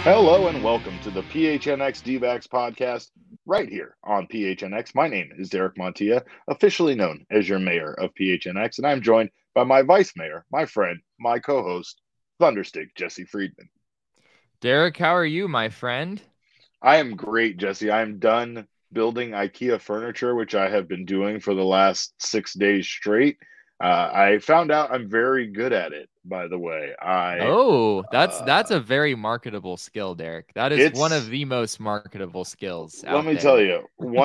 Hello and welcome to the PHNX D-backs podcast right here on PHNX. My name is Derek Montilla, officially known as your mayor of PHNX, and I'm joined by my vice mayor, my friend, my co-host, Thunderstick Jesse Friedman. Derek, how are you, my friend? I am great, Jesse. I am done building IKEA furniture, which I have been doing for the last 6 days straight. I found out I'm very good at it, by the way. Oh, that's Uh, a very marketable skill, Derek. That is one of it's the most marketable skills let out me tell there. you,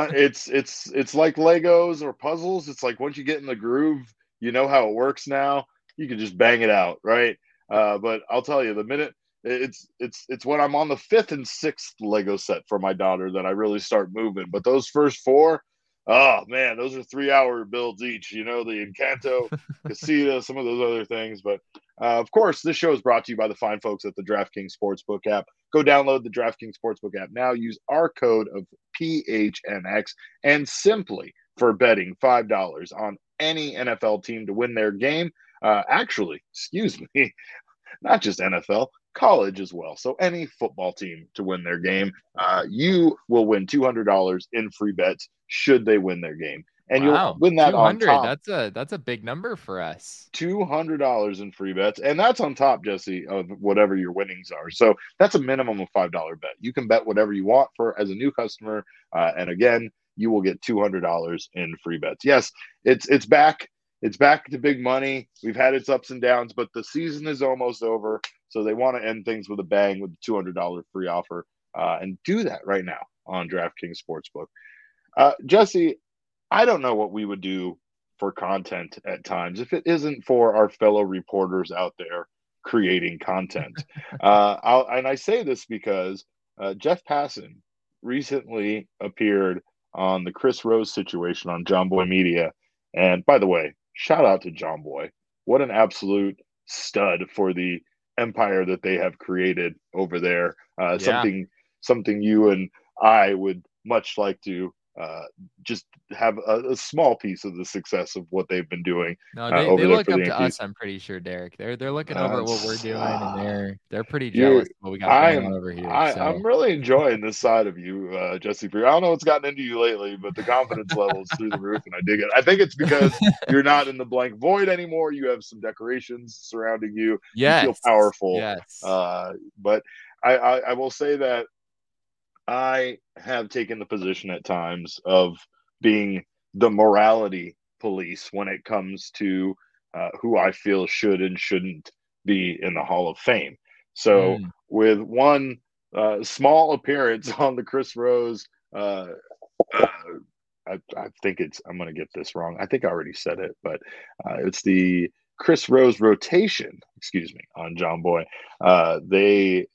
it's like Legos or puzzles. It's like once you get in the groove, you know how it works now. You can just bang it out, right? But I'll tell you, the minute it's when I'm on the fifth and sixth Lego set for my daughter that I really start moving. But those first four, oh man, those are 3 hour builds each. You know, the Encanto, Casita, some of those other things. But of course, this show is brought to you by the fine folks at the DraftKings Sportsbook app. Go download the DraftKings Sportsbook app now. Use our code of PHNX and simply for betting $5 on any NFL team to win their game. Excuse me, not just NFL, college as well. So any football team to win their game, you will win $200 in free bets should they win their game. And you'll Wow, win that on 200. top That's a big number for us. $200 in free bets, and that's on top, Jesse, of whatever your winnings are. So that's a minimum of $5 bet. You can bet whatever you want for as a new customer, and again, you will get $200 in free bets. Yes, it's back. It's back to big money. We've had its ups and downs, but the season is almost over, so they want to end things with a bang with a $200 free offer, and do that right now on DraftKings Sportsbook. Jesse, I don't know what we would do for content at times if it isn't for our fellow reporters out there creating content. And I say this because Jeff Passan recently appeared on the Chris Rose situation on John Boy Media. And by the way, shout out to John Boy. What an absolute stud for the empire that they have created over there. Yeah. Something you and I would much like to just have a small piece of the success of what they've been doing No, they over there look for the up to Yankees. us, I'm pretty sure, Derek. They're looking over at what we're doing and they're pretty You're, jealous of what we got going on I'm, over here. I'm So, really enjoying this side of you, Jesse. I don't know what's gotten into you lately, but the confidence level is through the roof, and I dig it. I think it's because you're not in the blank void anymore. You have some decorations surrounding you. You feel yes. powerful. Yes. But I will say that I have taken the position at times of being the morality police when it comes to who I feel should and shouldn't be in the Hall of Fame. So, Mm. with one small appearance on the Chris Rose, uh, uh, I think I'm going to get this wrong. I think I already said it, but it's the Chris Rose rotation, excuse me, on John Boy. They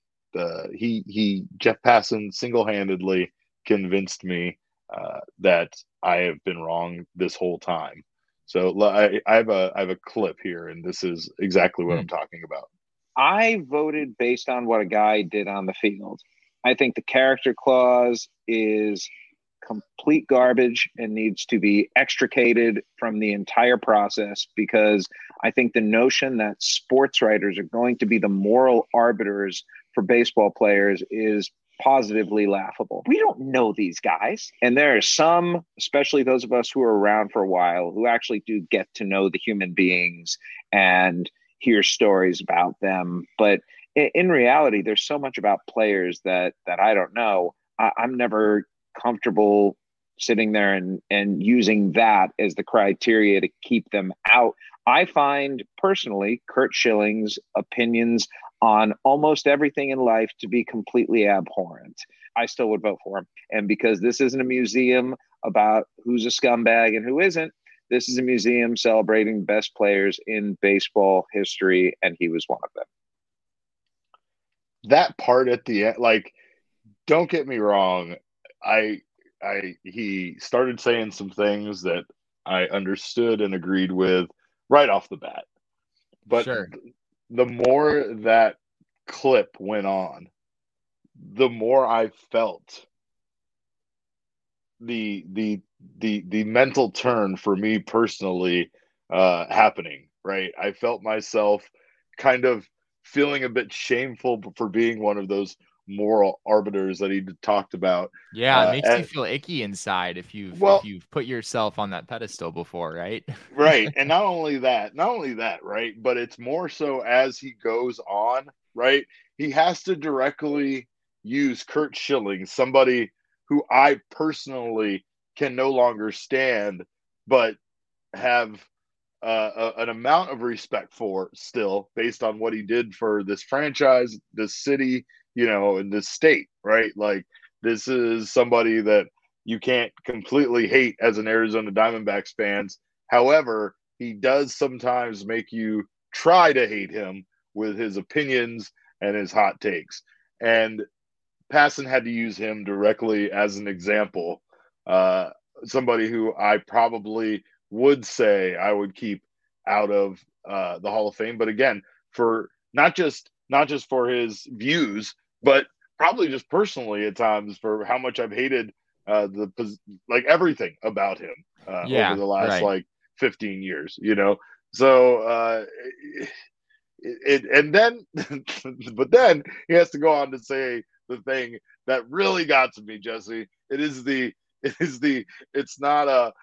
Jeff Passan single handedly convinced me that I have been wrong this whole time. So I have a clip here, and this is exactly what I'm Mm. talking about. I voted based on what a guy did on the field. I think the character clause is complete garbage and needs to be extricated from the entire process because I think the notion that sports writers are going to be the moral arbiters for baseball players is positively laughable. We don't know these guys. And there are some, especially those of us who are around for a while, who actually do get to know the human beings and hear stories about them. But in reality, there's so much about players that I don't know. I'm never comfortable sitting there and using that as the criteria to keep them out. I find personally Curt Schilling's opinions on almost everything in life to be completely abhorrent. I still would vote for him. And because this isn't a museum about who's a scumbag and who isn't, this is a museum celebrating best players in baseball history, and he was one of them. That part at the end, like, don't get me wrong, I he started saying some things that I understood and agreed with right off the bat. But Sure. the more that clip went on, the more I felt the mental turn for me personally happening. Right, I felt myself kind of feeling a bit shameful for being one of those moral arbiters that he talked about. Yeah, it makes you feel icky inside if you've put yourself on that pedestal before, right? Right. And not only that, right? But it's more so as he goes on, right? He has to directly use Curt Schilling, somebody who I personally can no longer stand, but have an amount of respect for still based on what he did for this franchise, this city, and this state, right? Like, this is somebody that you can't completely hate as an Arizona Diamondbacks fans. However, he does sometimes make you try to hate him with his opinions and his hot takes. And Passan had to use him directly as an example. Somebody who I probably would say I would keep out of the Hall of Fame, but again, for not just for his views, but probably just personally at times for how much I've hated everything about him over the last 15 years. So and then but then he has to go on to say the thing that really got to me, Jesse. It's not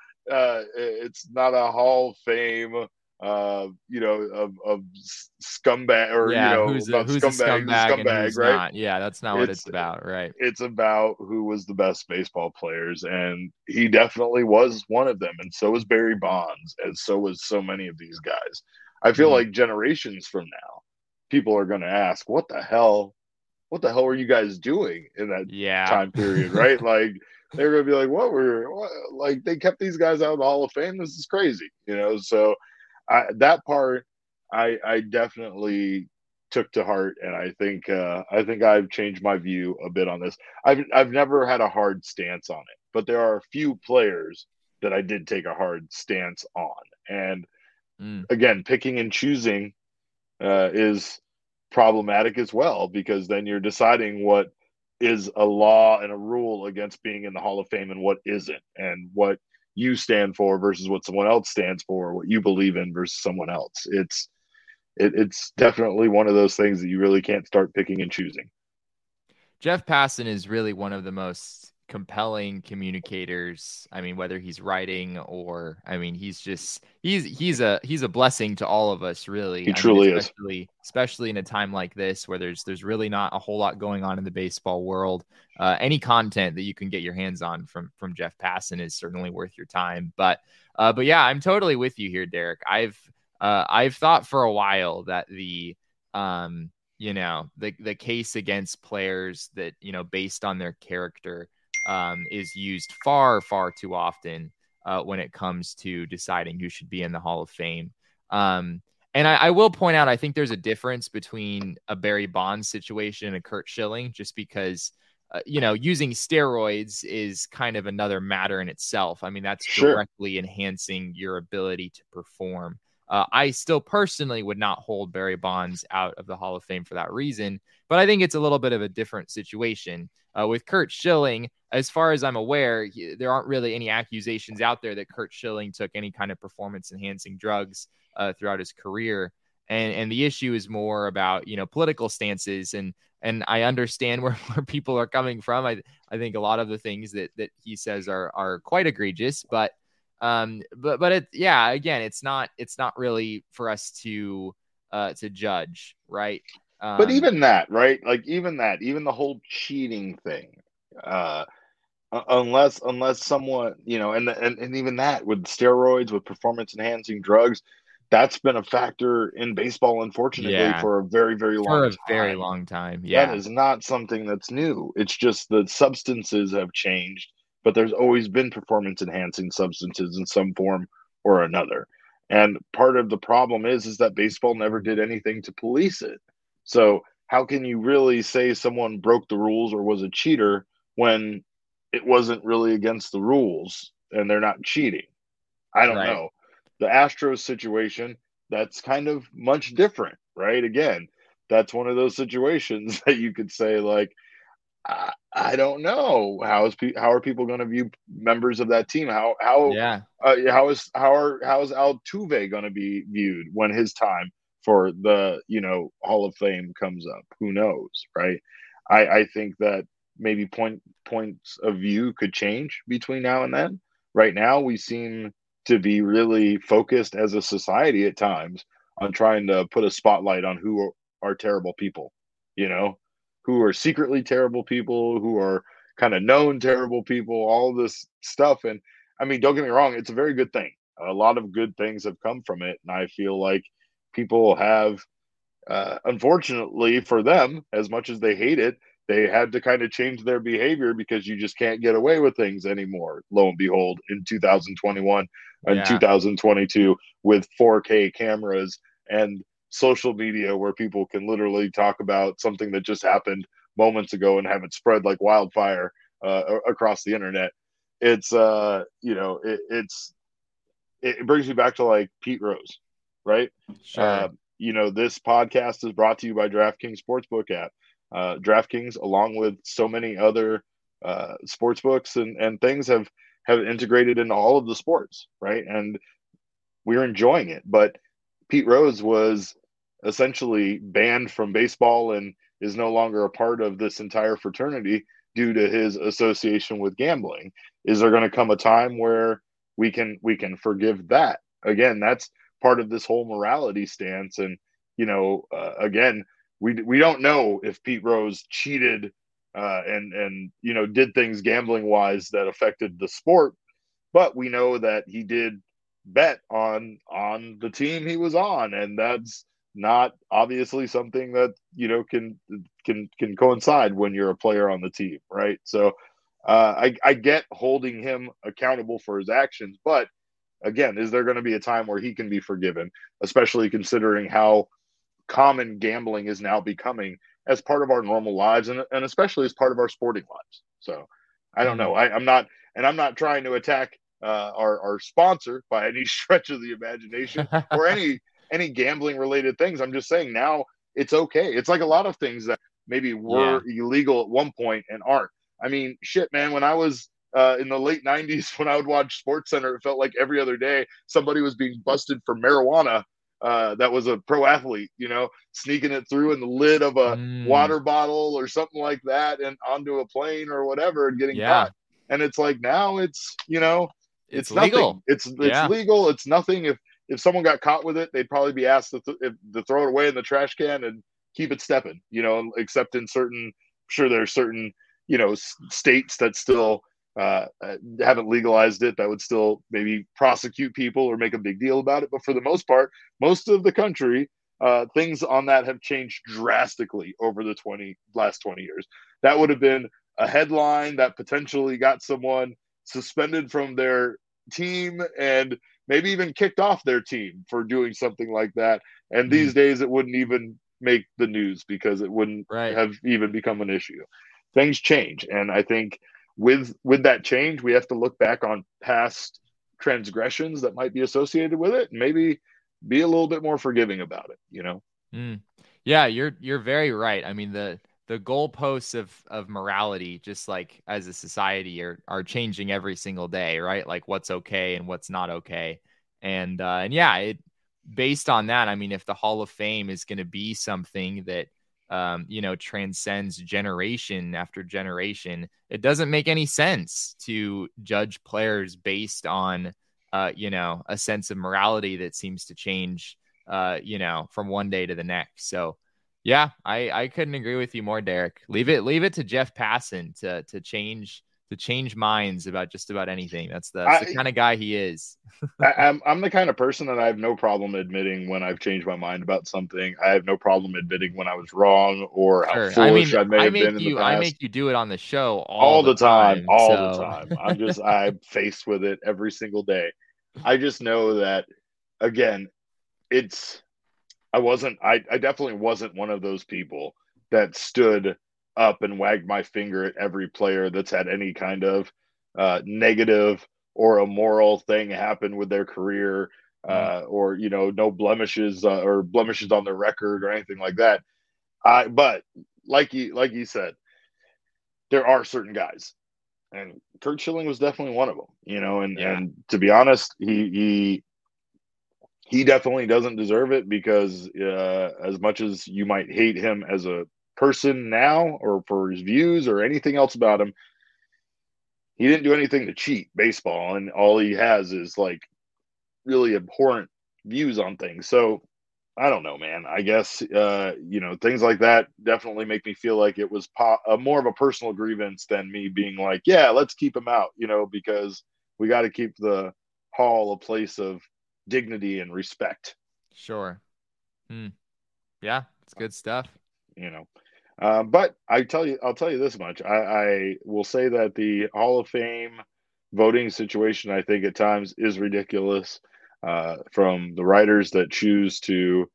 a Hall of Fame of scumbag, or who's a scumbag and who's right? not. Yeah, that's not what it's about, right? It's about who was the best baseball players, and he definitely was one of them, and so was Barry Bonds, and so was so many of these guys. I feel like generations from now, people are going to ask, what the hell were you guys doing in that time period, right? Like, they're going to be like, like, they kept these guys out of the Hall of Fame? This is crazy, So that part, I definitely took to heart, and I think I've changed my view a bit on this. I've never had a hard stance on it, but there are a few players that I did take a hard stance on, and again, picking and choosing is problematic as well, because then you're deciding what is a law and a rule against being in the Hall of Fame and what isn't, and what you stand for versus what someone else stands for, what you believe in versus someone else. It's definitely one of those things that you really can't start picking and choosing. Jeff Passan is really one of the most compelling communicators. I mean, whether he's writing or, I mean, he's a blessing to all of us, really. He truly is. Especially in a time like this where there's really not a whole lot going on in the baseball world. Any content that you can get your hands on from Jeff Passan is certainly worth your time. But yeah, I'm totally with you here, Derek. I've thought for a while that the case against players that, based on their character, is used far, far too often when it comes to deciding who should be in the Hall of Fame. And I will point out, I think there's a difference between a Barry Bonds situation and a Curt Schilling, just because, using steroids is kind of another matter in itself. I mean, that's directly enhancing your ability to perform. I still personally would not hold Barry Bonds out of the Hall of Fame for that reason, but I think it's a little bit of a different situation. With Curt Schilling, as far as I'm aware, there aren't really any accusations out there that Curt Schilling took any kind of performance-enhancing drugs throughout his career. And the issue is more about, political stances. And I understand where people are coming from. I think a lot of the things that he says are quite egregious, but again, it's not really for us to judge, right? But even that, right? Like, even the whole cheating thing, unless someone, and even that with steroids, with performance enhancing drugs, that's been a factor in baseball, unfortunately, for a very, very long time. Yeah. That is not something that's new. It's just that substances have changed, but there's always been performance enhancing substances in some form or another. And part of the problem is that baseball never did anything to police it. So how can you really say someone broke the rules or was a cheater when it wasn't really against the rules and they're not cheating? I don't know. The Astros situation, that's kind of much different, right? Again, that's one of those situations that you could say, like, I don't know how are people going to view members of that team? How is Altuve going to be viewed when his time for the Hall of Fame comes up? Who knows, right? I think that maybe points of view could change between now and then. Right now, we seem to be really focused as a society at times on trying to put a spotlight on who are terrible people, you know, who are secretly terrible people, who are kind of known terrible people, all this stuff. And I mean, don't get me wrong, it's a very good thing. A lot of good things have come from it. And I feel like people have, unfortunately for them, as much as they hate it, they had to kind of change their behavior because you just can't get away with things anymore. Lo and behold, in 2021 and 2022, with 4K cameras and social media where people can literally talk about something that just happened moments ago and have it spread like wildfire across the internet. It's it brings me back to like Pete Rose, right? Sure. This podcast is brought to you by DraftKings Sportsbook app. DraftKings, along with so many other sports books and things, have integrated into all of the sports, right? And we're enjoying it. But Pete Rose was essentially banned from baseball and is no longer a part of this entire fraternity due to his association with gambling. Is there going to come a time where we can forgive that? Again, that's part of this whole morality stance. And again, we don't know if Pete Rose cheated and did things gambling wise that affected the sport, but we know that he did bet on the team he was on, and that's not obviously something that can coincide when you're a player on the team, right? So I get holding him accountable for his actions, but again, is there going to be a time where he can be forgiven, especially considering how common gambling is now becoming as part of our normal lives and especially as part of our sporting lives? So I don't know. I'm not trying to attack our sponsor by any stretch of the imagination or any gambling related things. I'm just saying now it's okay. It's like a lot of things that maybe were illegal at one point and aren't. I mean, shit, man, when I was in the late 90s, when I would watch SportsCenter, it felt like every other day somebody was being busted for marijuana that was a pro athlete, sneaking it through in the lid of a water bottle or something like that and onto a plane or whatever and getting caught. And it's like now it's it's legal. Nothing. It's legal. It's nothing. If someone got caught with it, they'd probably be asked to throw it away in the trash can and keep it stepping, except in certain, I'm sure there's certain, states that still haven't legalized it that would still maybe prosecute people or make a big deal about it. But for the most part, most of the country, things on that have changed drastically over the last 20 years. That would have been a headline that potentially got someone suspended from their team and maybe even kicked off their team for doing something like that. And these days it wouldn't even make the news because it wouldn't have even become an issue. Things change. And I think with that change, we have to look back on past transgressions that might be associated with it and maybe be a little bit more forgiving about it, Yeah, you're very right. I mean, the goalposts of morality, just like as a society, are changing every single day, right? Like what's okay and what's not okay. And based on that, I mean, if the Hall of Fame is going to be something that transcends generation after generation, it doesn't make any sense to judge players based on, a sense of morality that seems to change, from one day to the next. So, yeah, I couldn't agree with you more, Derek. Leave it to Jeff Passan to change minds about just about anything. That's the kind of guy he is. I'm the kind of person that I have no problem admitting when I've changed my mind about something. I have no problem admitting when I was wrong or how foolish I may have been in the past. I make you do it on the show all the time. The time. I'm faced with it every single day. I just know that, again, I definitely wasn't one of those people that stood up and wagged my finger at every player that's had any kind of negative or immoral thing happen with their career, or no blemishes or blemishes on their record or anything like that. But like you said, there are certain guys, and Curt Schilling was definitely one of them. And to be honest, he definitely doesn't deserve it because as much as you might hate him as a person now or for his views or anything else about him, he didn't do anything to cheat baseball, and all he has is like really abhorrent views on things. So I don't know, man. I guess things like that definitely make me feel like it was more of a personal grievance than me being like, yeah, let's keep him out, because we got to keep the Hall a place of dignity and respect. Sure. Yeah, it's good stuff. But I'll tell you this much. I will say that the Hall of Fame voting situation, I think at times is ridiculous. From the writers that choose to,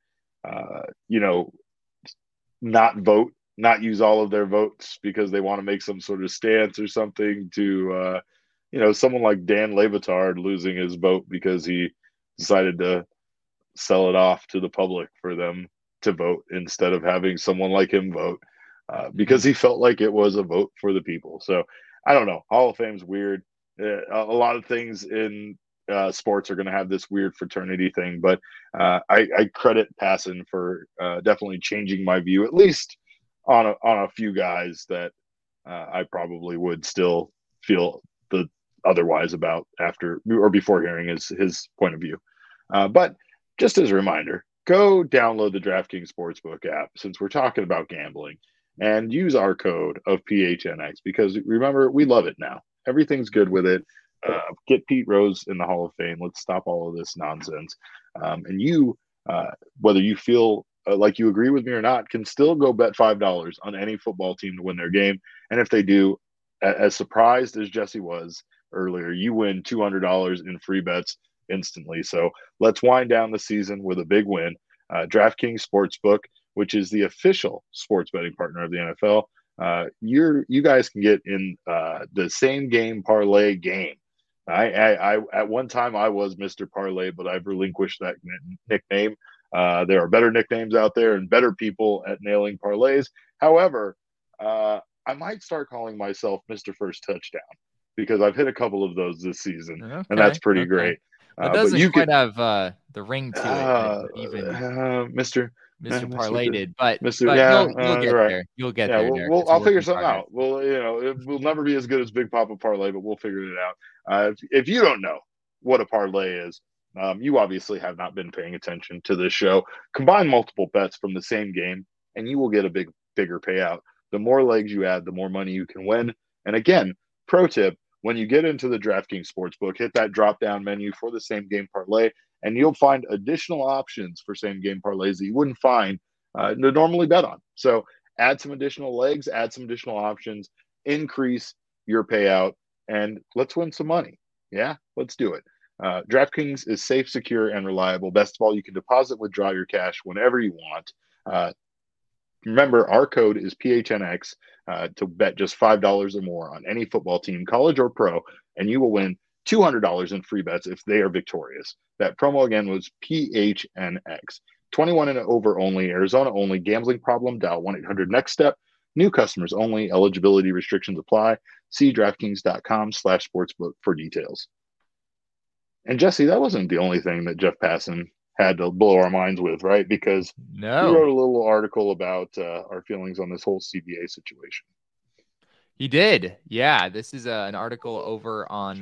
not vote, not use all of their votes because they want to make some sort of stance or something, to, someone like Dan Le Batard losing his vote because he decided to sell it off to the public for them to vote instead of having someone like him vote, because he felt like it was a vote for the people. So I don't know. Hall of Fame's weird. A lot of things in sports are going to have this weird fraternity thing, but I credit Passan for definitely changing my view, at least on a few guys that I probably would still feel the otherwise about after or before hearing his point of view. But just as a reminder, go download the DraftKings Sportsbook app since we're talking about gambling, and use our code of PHNX, because remember, we love it now. Everything's good with it. Get Pete Rose in the Hall of Fame. Let's stop all of this nonsense. And you, whether you feel like you agree with me or not, can still go bet $5 on any football team to win their game. And if they do, as surprised as Jesse was earlier, you win $200 in free bets instantly. So let's wind down the season with a big win. DraftKings Sportsbook, which is the official sports betting partner of the NFL, you guys can get in the same game parlay game. I at one time I was Mr. Parlay, but I've relinquished that nickname. There are better nicknames out there and better people at nailing parlays. However, I might start calling myself Mr. First Touchdown, because I've hit a couple of those this season, and that's pretty great. It doesn't quite have the ring to it, even Mr. Parlay did, but Mr. You'll get right. there. You'll get there. I'll figure something out. Well, it will never be as good as Big Papa Parlay, but we'll figure it out. If you don't know what a parlay is, you obviously have not been paying attention to this show. Combine multiple bets from the same game, and you will get a bigger payout. The more legs you add, the more money you can win. And again, pro tip: when you get into the DraftKings Sportsbook, hit that drop-down menu for the same game parlay, and you'll find additional options for same game parlays that you wouldn't find to normally bet on. So add some additional legs, add some additional options, increase your payout, and let's win some money. Yeah, let's do it. DraftKings is safe, secure, and reliable. Best of all, you can deposit, withdraw your cash whenever you want. Remember, our code is PHNX to bet just $5 or more on any football team, college or pro, and you will win $200 in free bets if they are victorious. That promo again was PHNX. 21 and over only, Arizona only. Gambling problem? Dial 1-800-NEXT-STEP. New customers only. Eligibility restrictions apply. See DraftKings.com/sportsbook for details. And Jesse, that wasn't the only thing that Jeff Passan had to blow our minds with, right? Because he wrote a little article about our feelings on this whole CBA situation. He did. Yeah. This is an article over on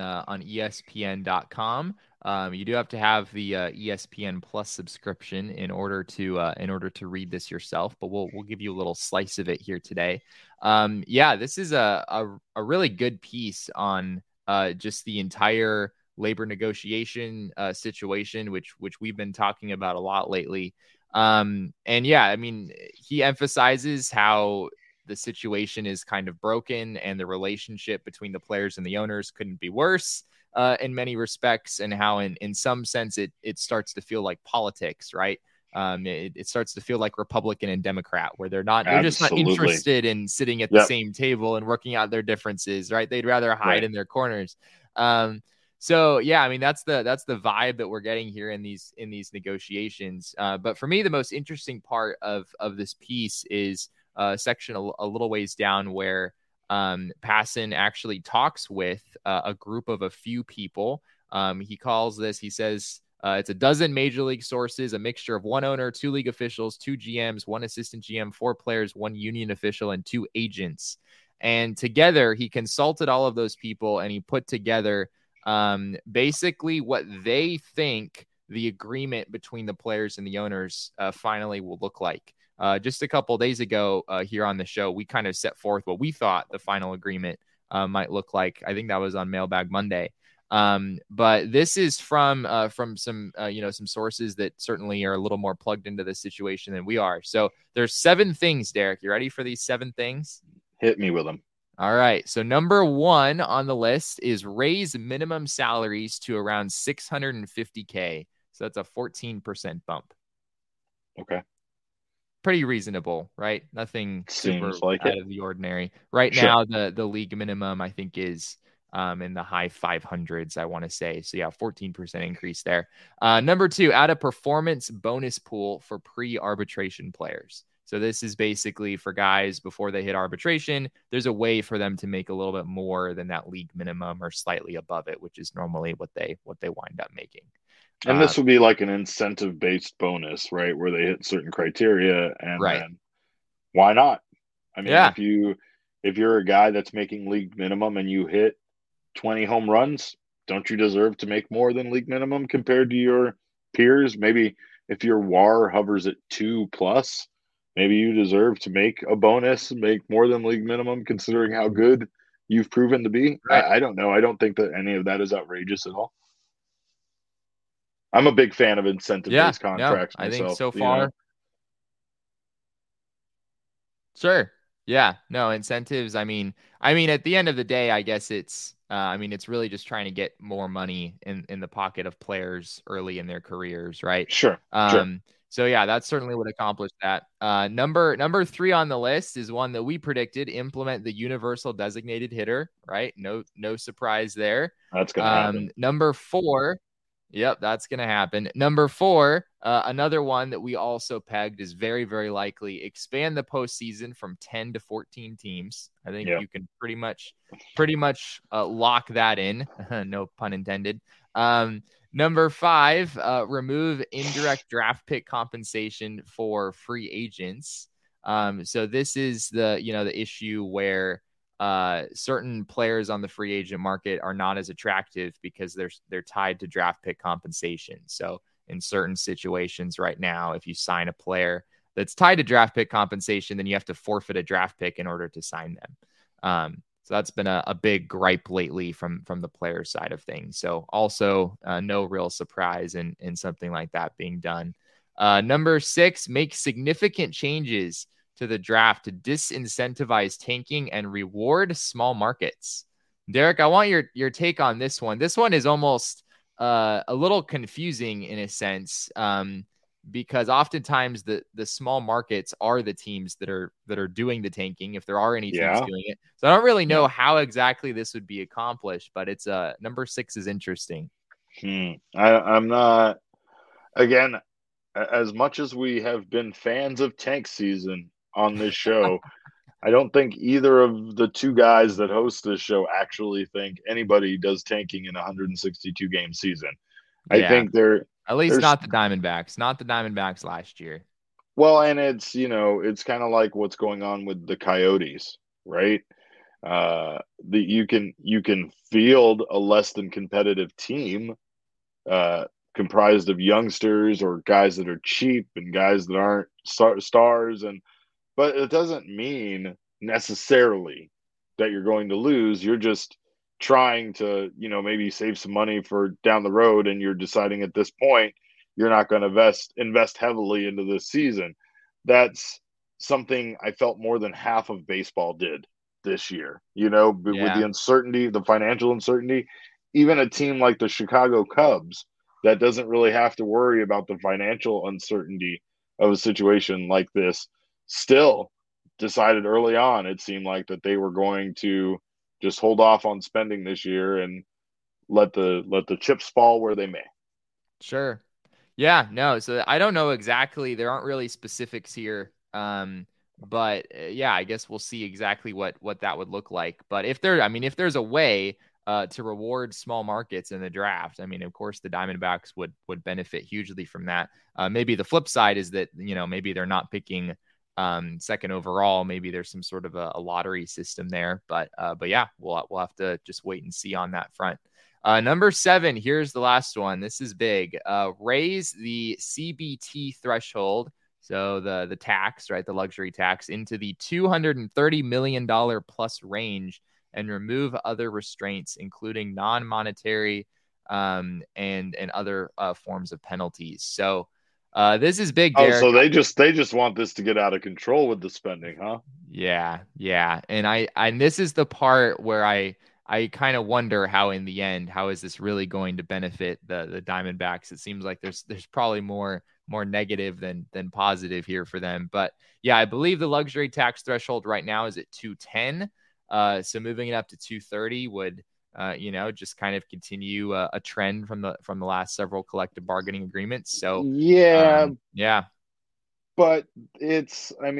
ESPN.com. You do have to have the ESPN Plus subscription in order to read this yourself, but we'll give you a little slice of it here today. This is a really good piece on just the entire labor negotiation situation, which we've been talking about a lot lately. He emphasizes how the situation is kind of broken and the relationship between the players and the owners couldn't be worse in many respects, and how in some sense it starts to feel like politics, right? It starts to feel like Republican and Democrat, where they're just not interested in sitting at the same table and working out their differences, right? They'd rather hide in their corners. So that's the vibe that we're getting here in these negotiations. But for me, the most interesting part of this piece is a section a little ways down where Passan actually talks with a group of a few people. He says It's a dozen major league sources, a mixture of one owner, two league officials, two GMs, one assistant GM, four players, one union official, and two agents. And together, he consulted all of those people and he put together basically what they think the agreement between the players and the owners finally will look like. Just a couple of days ago here on the show, we kind of set forth what we thought the final agreement might look like. I think that was on Mailbag Monday. But this is from some some sources that certainly are a little more plugged into the situation than we are. So there's 7 things, Derek. You ready for these 7 things? Hit me with them. All right. So number 1 on the list is raise minimum salaries to around $650K. So that's a 14% bump. Okay. Pretty reasonable, right? Nothing super like out of the ordinary. Right now, the league minimum, I think, is in the high 500s, I want to say. So yeah, 14% increase there. Number 2, add a performance bonus pool for pre-arbitration players. So this is basically for guys before they hit arbitration. There's a way for them to make a little bit more than that league minimum or slightly above it, which is normally what they wind up making. And this would be like an incentive-based bonus, right? Where they hit certain criteria, and then why not? I mean, if you're a guy that's making league minimum and you hit 20 home runs, don't you deserve to make more than league minimum compared to your peers? Maybe if your WAR hovers at 2+, maybe you deserve to make a bonus and make more than league minimum considering how good you've proven to be. Right. I don't know. I don't think that any of that is outrageous at all. I'm a big fan of incentive-based contracts myself. I think so far. Sure. Yeah. No, incentives. I mean, at the end of the day, I guess it's really just trying to get more money in the pocket of players early in their careers, right? Sure. So yeah, that certainly would accomplish that. Number 3 on the list is one that we predicted: implement the universal designated hitter, right? No surprise there. That's gonna happen. Number 4. Yep, that's going to happen. Number 4, another one that we also pegged is very, very likely: expand the postseason from 10 to 14 teams. I think you can pretty much lock that in. No pun intended. Number 5, remove indirect draft pick compensation for free agents. So this is the issue where certain players on the free agent market are not as attractive because they're tied to draft pick compensation. So in certain situations right now, if you sign a player that's tied to draft pick compensation, then you have to forfeit a draft pick in order to sign them. So that's been a big gripe lately from the player side of things. So also no real surprise in something like that being done. Number 6, make significant changes to the draft to disincentivize tanking and reward small markets. Derek, I want your take on this one. This one is almost a little confusing in a sense, because oftentimes the small markets are the teams that are doing the tanking, if there are any teams doing it. So I don't really know how exactly this would be accomplished, but it's number 6 is interesting. I'm not, again, as much as we have been fans of tank season on this show, I don't think either of the 2 guys that host this show actually think anybody does tanking in a 162 game season. I think they're at least not the Diamondbacks last year. Well, and it's kind of like what's going on with the Coyotes, right? You can field a less than competitive team comprised of youngsters or guys that are cheap and guys that aren't stars, but it doesn't mean necessarily that you're going to lose. You're just trying to, maybe save some money for down the road, and you're deciding at this point you're not going to invest heavily into this season. That's something I felt more than half of baseball did this year. With the uncertainty, the financial uncertainty, even a team like the Chicago Cubs that doesn't really have to worry about the financial uncertainty of a situation like this still decided early on, it seemed like, that they were going to just hold off on spending this year and let the chips fall where they may. Sure. Yeah, no. So I don't know exactly. There aren't really specifics here. But I guess we'll see exactly what that would look like. But if there's a way to reward small markets in the draft. I mean, of course, the Diamondbacks would benefit hugely from that. Maybe the flip side is that, maybe they're not picking second overall. Maybe there's some sort of a lottery system there. But yeah, we'll have to just wait and see on that front. Number 7, here's the last one. This is big. Raise the CBT threshold. So the tax, right, the luxury tax, into the $230 million plus range, and remove other restraints, including non-monetary and other forms of penalties. So this is big, Derek. Oh, so they just want this to get out of control with the spending, huh? Yeah. And this is the part where I kind of wonder how, in the end, how is this really going to benefit the Diamondbacks? It seems like there's probably more negative than positive here for them. But yeah, I believe the luxury tax threshold right now is at 210. So moving it up to 230 would, just kind of continue a trend from the last several collective bargaining agreements. So yeah, but it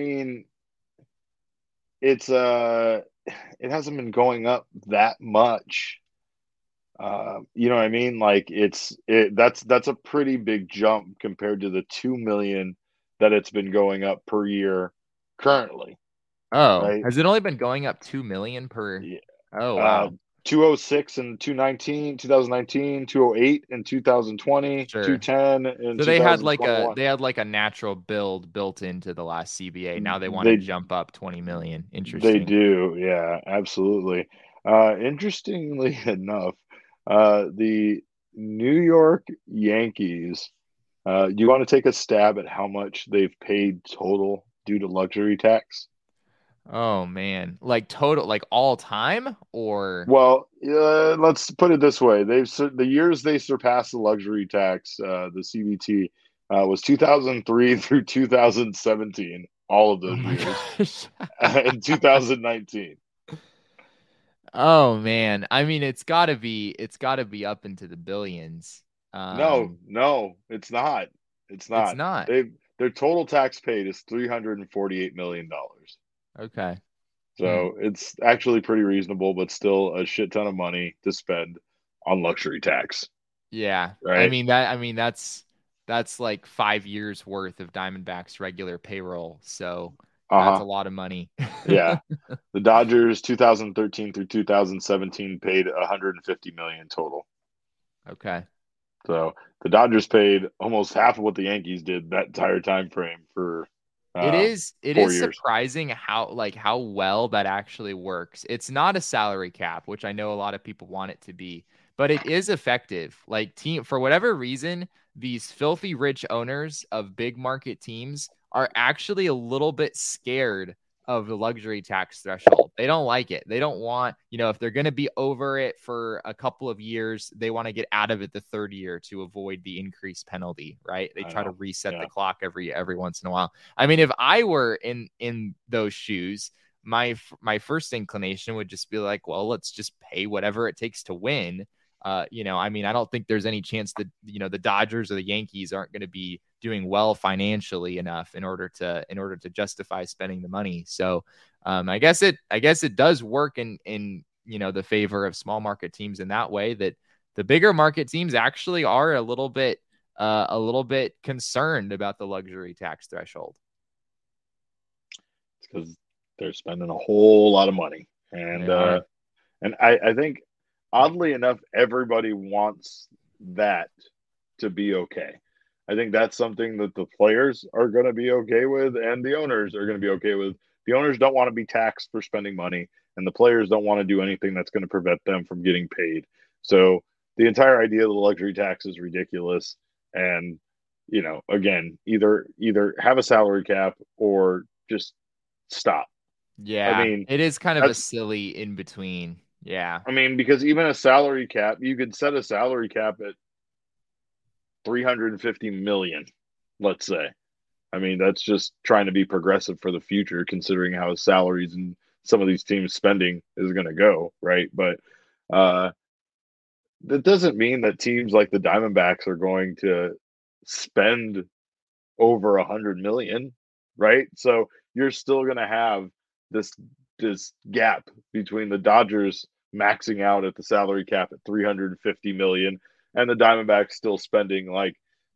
hasn't been going up that much. You know what I mean? Like that's a pretty big jump compared to the 2 million that it's been going up per year currently. Oh, right? Has it only been going up 2 million per? Yeah. Oh, wow. 206 and 2019, 208 and 2020, Sure. 210 and so they had like a natural build built into the last CBA. Now they want to jump up 20 million. Interesting. They do. Yeah, absolutely. Interestingly enough, the New York Yankees, you want to take a stab at how much they've paid total due to luxury tax? Oh man, like total, like all time, or? Well, let's put it this way: the years they surpassed the luxury tax, the CBT, was 2003 through 2017. All of those years, and 2019. Oh man, I mean, it's got to be up into the billions. No, it's not. It's not. It's not. Their total tax paid is $348 million. Okay. So it's actually pretty reasonable, but still a shit ton of money to spend on luxury tax. Yeah. Right. I mean that's like 5 years worth of Diamondbacks regular payroll. So that's a lot of money. Yeah. The Dodgers 2013 through 2017 paid 150 million total. Okay. So the Dodgers paid almost half of what the Yankees did that entire time frame for it is 4 years. Surprising how well that actually works. It's not a salary cap, which I know a lot of people want it to be, but it is effective. Like, for whatever reason, these filthy rich owners of big market teams are actually a little bit scared of the luxury tax threshold. They don't like it. They don't want, if they're going to be over it for a couple of years, they want to get out of it the third year to avoid the increased penalty, right? They try to reset the clock every once in a while. I mean, if I were in those shoes, my first inclination would just be like, well, let's just pay whatever it takes to win. I mean, I don't think there's any chance that, the Dodgers or the Yankees aren't going to be doing well financially enough in order to justify spending the money. So I guess it does work in the favor of small market teams in that way, that the bigger market teams actually are a little bit concerned about the luxury tax threshold. It's because they're spending a whole lot of money. And I think, oddly enough, everybody wants that to be okay. I think that's something that the players are going to be okay with, and the owners are going to be okay with. The owners don't want to be taxed for spending money, and the players don't want to do anything that's going to prevent them from getting paid. So the entire idea of the luxury tax is ridiculous. And, again, either have a salary cap or just stop. Yeah, I mean, it is kind of a silly in between. Yeah. I mean, because even a salary cap, you could set a salary cap at 350 million, let's say. I mean, that's just trying to be progressive for the future, considering how salaries and some of these teams' spending is going to go, right? But that doesn't mean that teams like the Diamondbacks are going to spend over 100 million, right? So you're still going to have this gap between the Dodgers maxing out at the salary cap at $350 million, and the Diamondbacks still spending like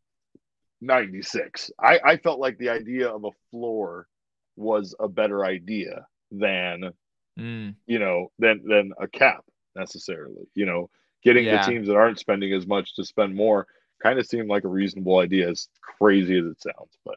96. I felt like the idea of a floor was a better idea than than a cap necessarily. Getting the Yeah. teams that aren't spending as much to spend more kind of seemed like a reasonable idea, as crazy as it sounds. But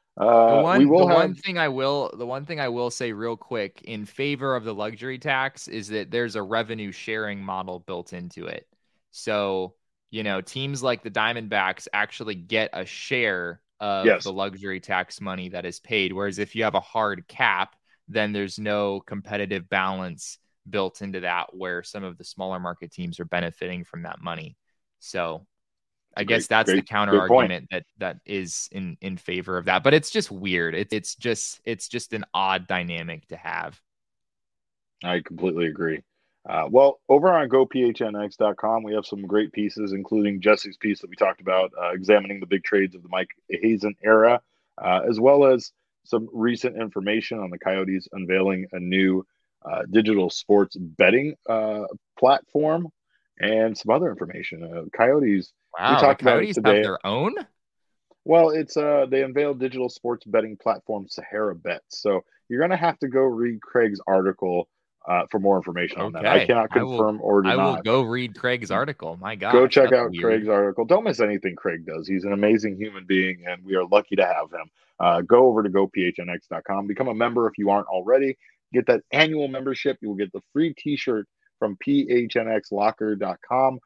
The one thing I will say real quick in favor of the luxury tax is that there's a revenue sharing model built into it. So, teams like the Diamondbacks actually get a share of the luxury tax money that is paid. Whereas if you have a hard cap, then there's no competitive balance built into that, where some of the smaller market teams are benefiting from that money. So I guess that's the counter argument that is in favor of that, but it's just weird. It's just an odd dynamic to have. I completely agree. Well, over on gophnx.com, we have some great pieces, including Jesse's piece that we talked about, examining the big trades of the Mike Hazen era, as well as some recent information on the Coyotes unveiling a new digital sports betting platform, and some other information. Coyotes. Wow, we talked about it today. Have their own? Well, it's they unveiled digital sports betting platform Sahara Bets. So you're going to have to go read Craig's article for more information on that. I cannot confirm or deny. I will go read Craig's article. My God. Go check out Craig's article. Don't miss anything Craig does. He's an amazing human being, and we are lucky to have him. Go over to gophnx.com. Become a member if you aren't already. Get that annual membership. You will get the free T-shirt from phnxlocker.com.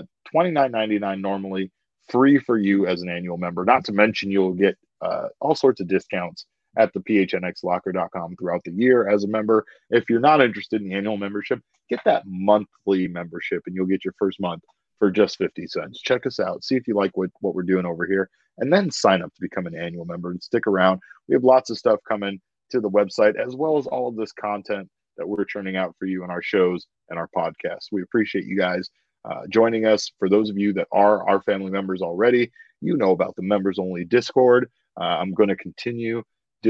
$29.99 normally, free for you as an annual member. Not to mention you'll get all sorts of discounts at the phnxlocker.com throughout the year as a member. If you're not interested in the annual membership, get that monthly membership and you'll get your first month for just 50 cents. Check us out. See if you like what we're doing over here, and then sign up to become an annual member and stick around. We have lots of stuff coming to the website, as well as all of this content that we're churning out for you in our shows and our podcasts. We appreciate you guys joining us. For those of you that are our family members already, you know about the members only Discord. I'm going to continue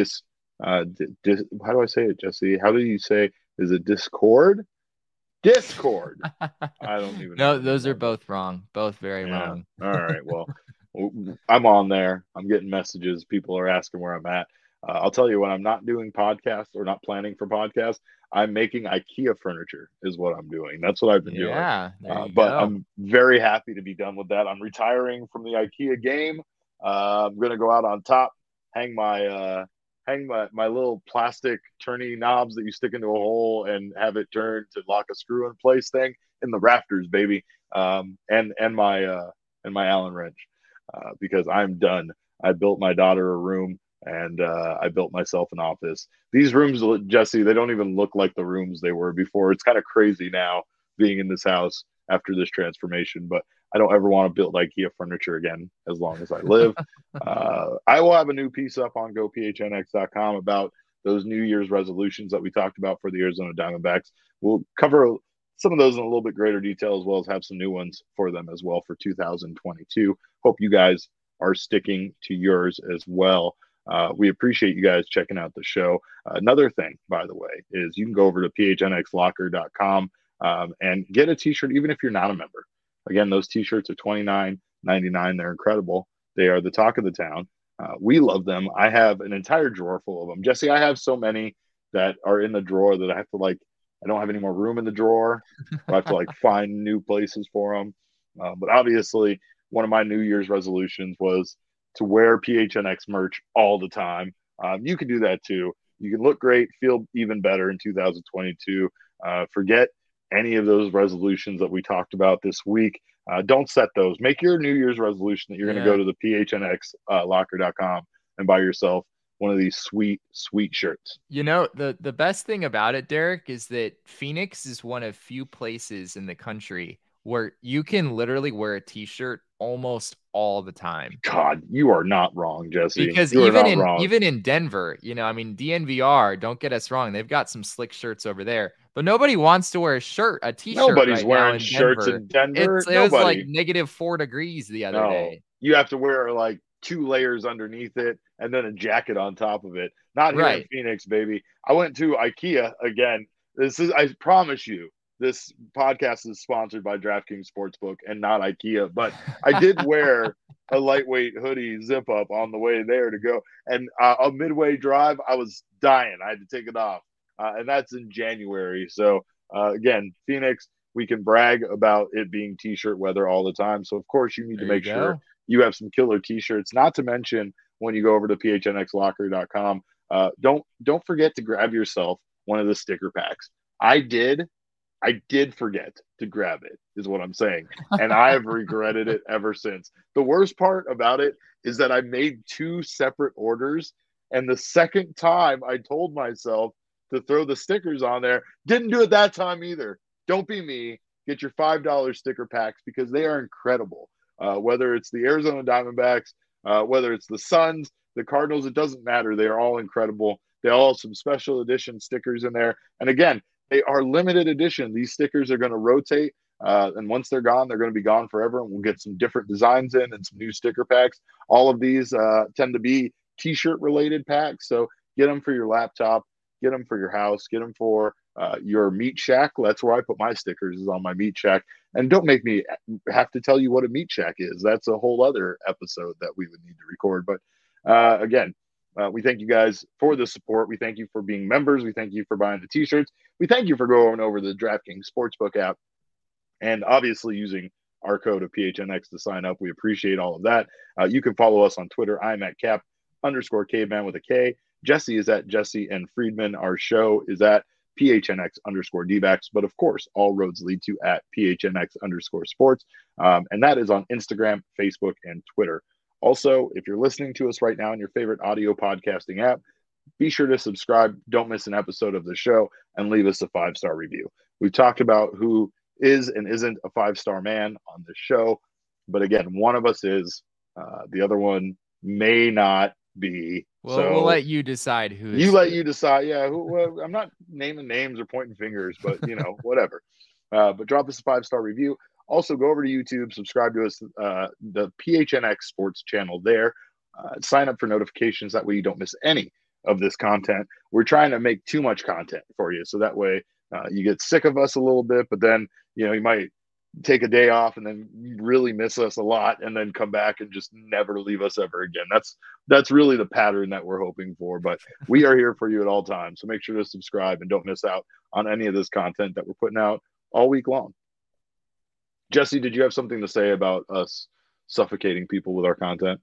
how do I say it, Jesse? How do you say, is it Discord? Discord. I don't even know. No, those are both wrong. Both very wrong. All right. Well, I'm on there. I'm getting messages. People are asking where I'm at. I'll tell you, when I'm not doing podcasts or not planning for podcasts, I'm making IKEA furniture is what I'm doing. That's what I've been doing. But I'm very happy to be done with that. I'm retiring from the IKEA game. I'm going to go out on top, hang my little plastic turny knobs that you stick into a hole and have it turn to lock a screw in place thing in the rafters, baby. And my Allen wrench, because I'm done. I built my daughter a room. And I built myself an office. These rooms, Jesse, they don't even look like the rooms they were before. It's kind of crazy now being in this house after this transformation, but I don't ever want to build IKEA furniture again as long as I live. I will have a new piece up on gophnx.com about those New Year's resolutions that we talked about for the Arizona Diamondbacks. We'll cover some of those in a little bit greater detail, as well as have some new ones for them as well for 2022. Hope you guys are sticking to yours as well. We appreciate you guys checking out the show. Another thing, by the way, is you can go over to phnxlocker.com and get a t-shirt, even if you're not a member. Again, those t-shirts are $29.99. They're incredible. They are the talk of the town. We love them. I have an entire drawer full of them. Jesse, I have so many that are in the drawer that I have to I don't have any more room in the drawer. I have to find new places for them. But obviously, one of my New Year's resolutions was to wear PHNX merch all the time. You can do that too. You can look great, feel even better in 2022. Forget any of those resolutions that we talked about this week. Don't set those. Make your New Year's resolution that you're going to go to the phnxlocker.com and buy yourself one of these sweet, sweet shirts. The best thing about it, Derek, is that Phoenix is one of few places in the country where you can literally wear a t-shirt almost all the time. God, you are not wrong, Jesse. Because even in Denver, DNVR, don't get us wrong, they've got some slick shirts over there, but nobody wants to wear a t-shirt. Nobody's wearing shirts in Denver. It was like -4 degrees the other day. You have to wear 2 layers underneath it and then a jacket on top of it. Not here in Phoenix, baby. I went to IKEA again. I promise you, this podcast is sponsored by DraftKings Sportsbook and not IKEA, but I did wear a lightweight hoodie zip up on the way there to go. And a midway drive, I was dying. I had to take it off. And that's in January. So, again, Phoenix, we can brag about it being t-shirt weather all the time. So, of course, you need to make sure you have some killer t-shirts, not to mention when you go over to phnxlocker.com, don't forget to grab yourself one of the sticker packs. I did forget to grab it, is what I'm saying. And I have regretted it ever since. The worst part about it is that I made 2 separate orders. And the second time I told myself to throw the stickers on there, didn't do it that time either. Don't be me. Get your $5 sticker packs because they are incredible. Whether it's the Arizona Diamondbacks, whether it's the Suns, the Cardinals, it doesn't matter. They are all incredible. They all have some special edition stickers in there. And again, they are limited edition. These stickers are going to rotate. And once they're gone, they're going to be gone forever. And we'll get some different designs in and some new sticker packs. All of these tend to be t-shirt related packs. So get them for your laptop, get them for your house, get them for your meat shack. That's where I put my stickers, is on my meat shack. And don't make me have to tell you what a meat shack is. That's a whole other episode that we would need to record. But again, we thank you guys for the support. We thank you for being members. We thank you for buying the t-shirts. We thank you for going over the DraftKings Sportsbook app and obviously using our code of PHNX to sign up. We appreciate all of that. You can follow us on Twitter. I'm at Cap_Caveman with a K. Jesse is at Jesse and Friedman. Our show is at PHNX_DBacks. But of course, all roads lead to at PHNX_sports. And that is on Instagram, Facebook, and Twitter. Also, if you're listening to us right now in your favorite audio podcasting app, be sure to subscribe. Don't miss an episode of the show and leave us a 5-star review. We've talked about who is and isn't a 5-star man on this show. But again, one of us is. The other one may not be. Well, so we'll let you decide who. You decide. Yeah. Well, I'm not naming names or pointing fingers, but, whatever. But drop us a 5-star review. Also, go over to YouTube, subscribe to us, the PHNX Sports channel there. Sign up for notifications. That way you don't miss any of this content. We're trying to make too much content for you. So that way you get sick of us a little bit, but then, you might take a day off and then really miss us a lot and then come back and just never leave us ever again. That's really the pattern that we're hoping for, but we are here for you at all times. So make sure to subscribe and don't miss out on any of this content that we're putting out all week long. Jesse, did you have something to say about us suffocating people with our content?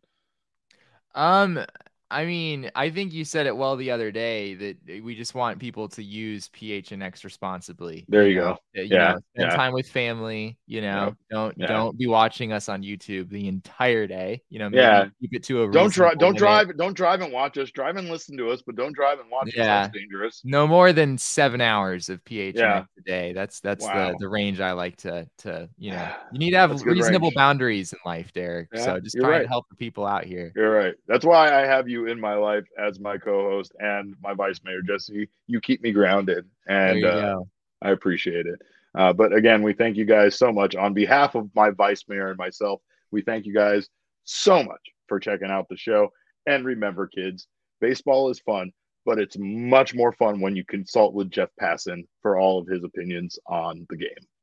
I mean, I think you said it well the other day that we just want people to use PHNX responsibly. There you go. Spend time with family, don't be watching us on YouTube the entire day. Maybe keep it to a don't drive and watch us. Drive and listen to us, but don't drive and watch us. That's dangerous. No more than 7 hours of PHNX a day. That's the range I like to you need to have reasonable boundaries in life, Derek. So just try to help the people out here. You're right. That's why I have you in my life as my co-host and my vice mayor, Jesse. You keep me grounded, and I appreciate it. But again, we thank you guys so much on behalf of my vice mayor and myself. We thank you guys so much for checking out the show. And remember, kids, baseball is fun, but it's much more fun when you consult with Jeff Passan for all of his opinions on the game.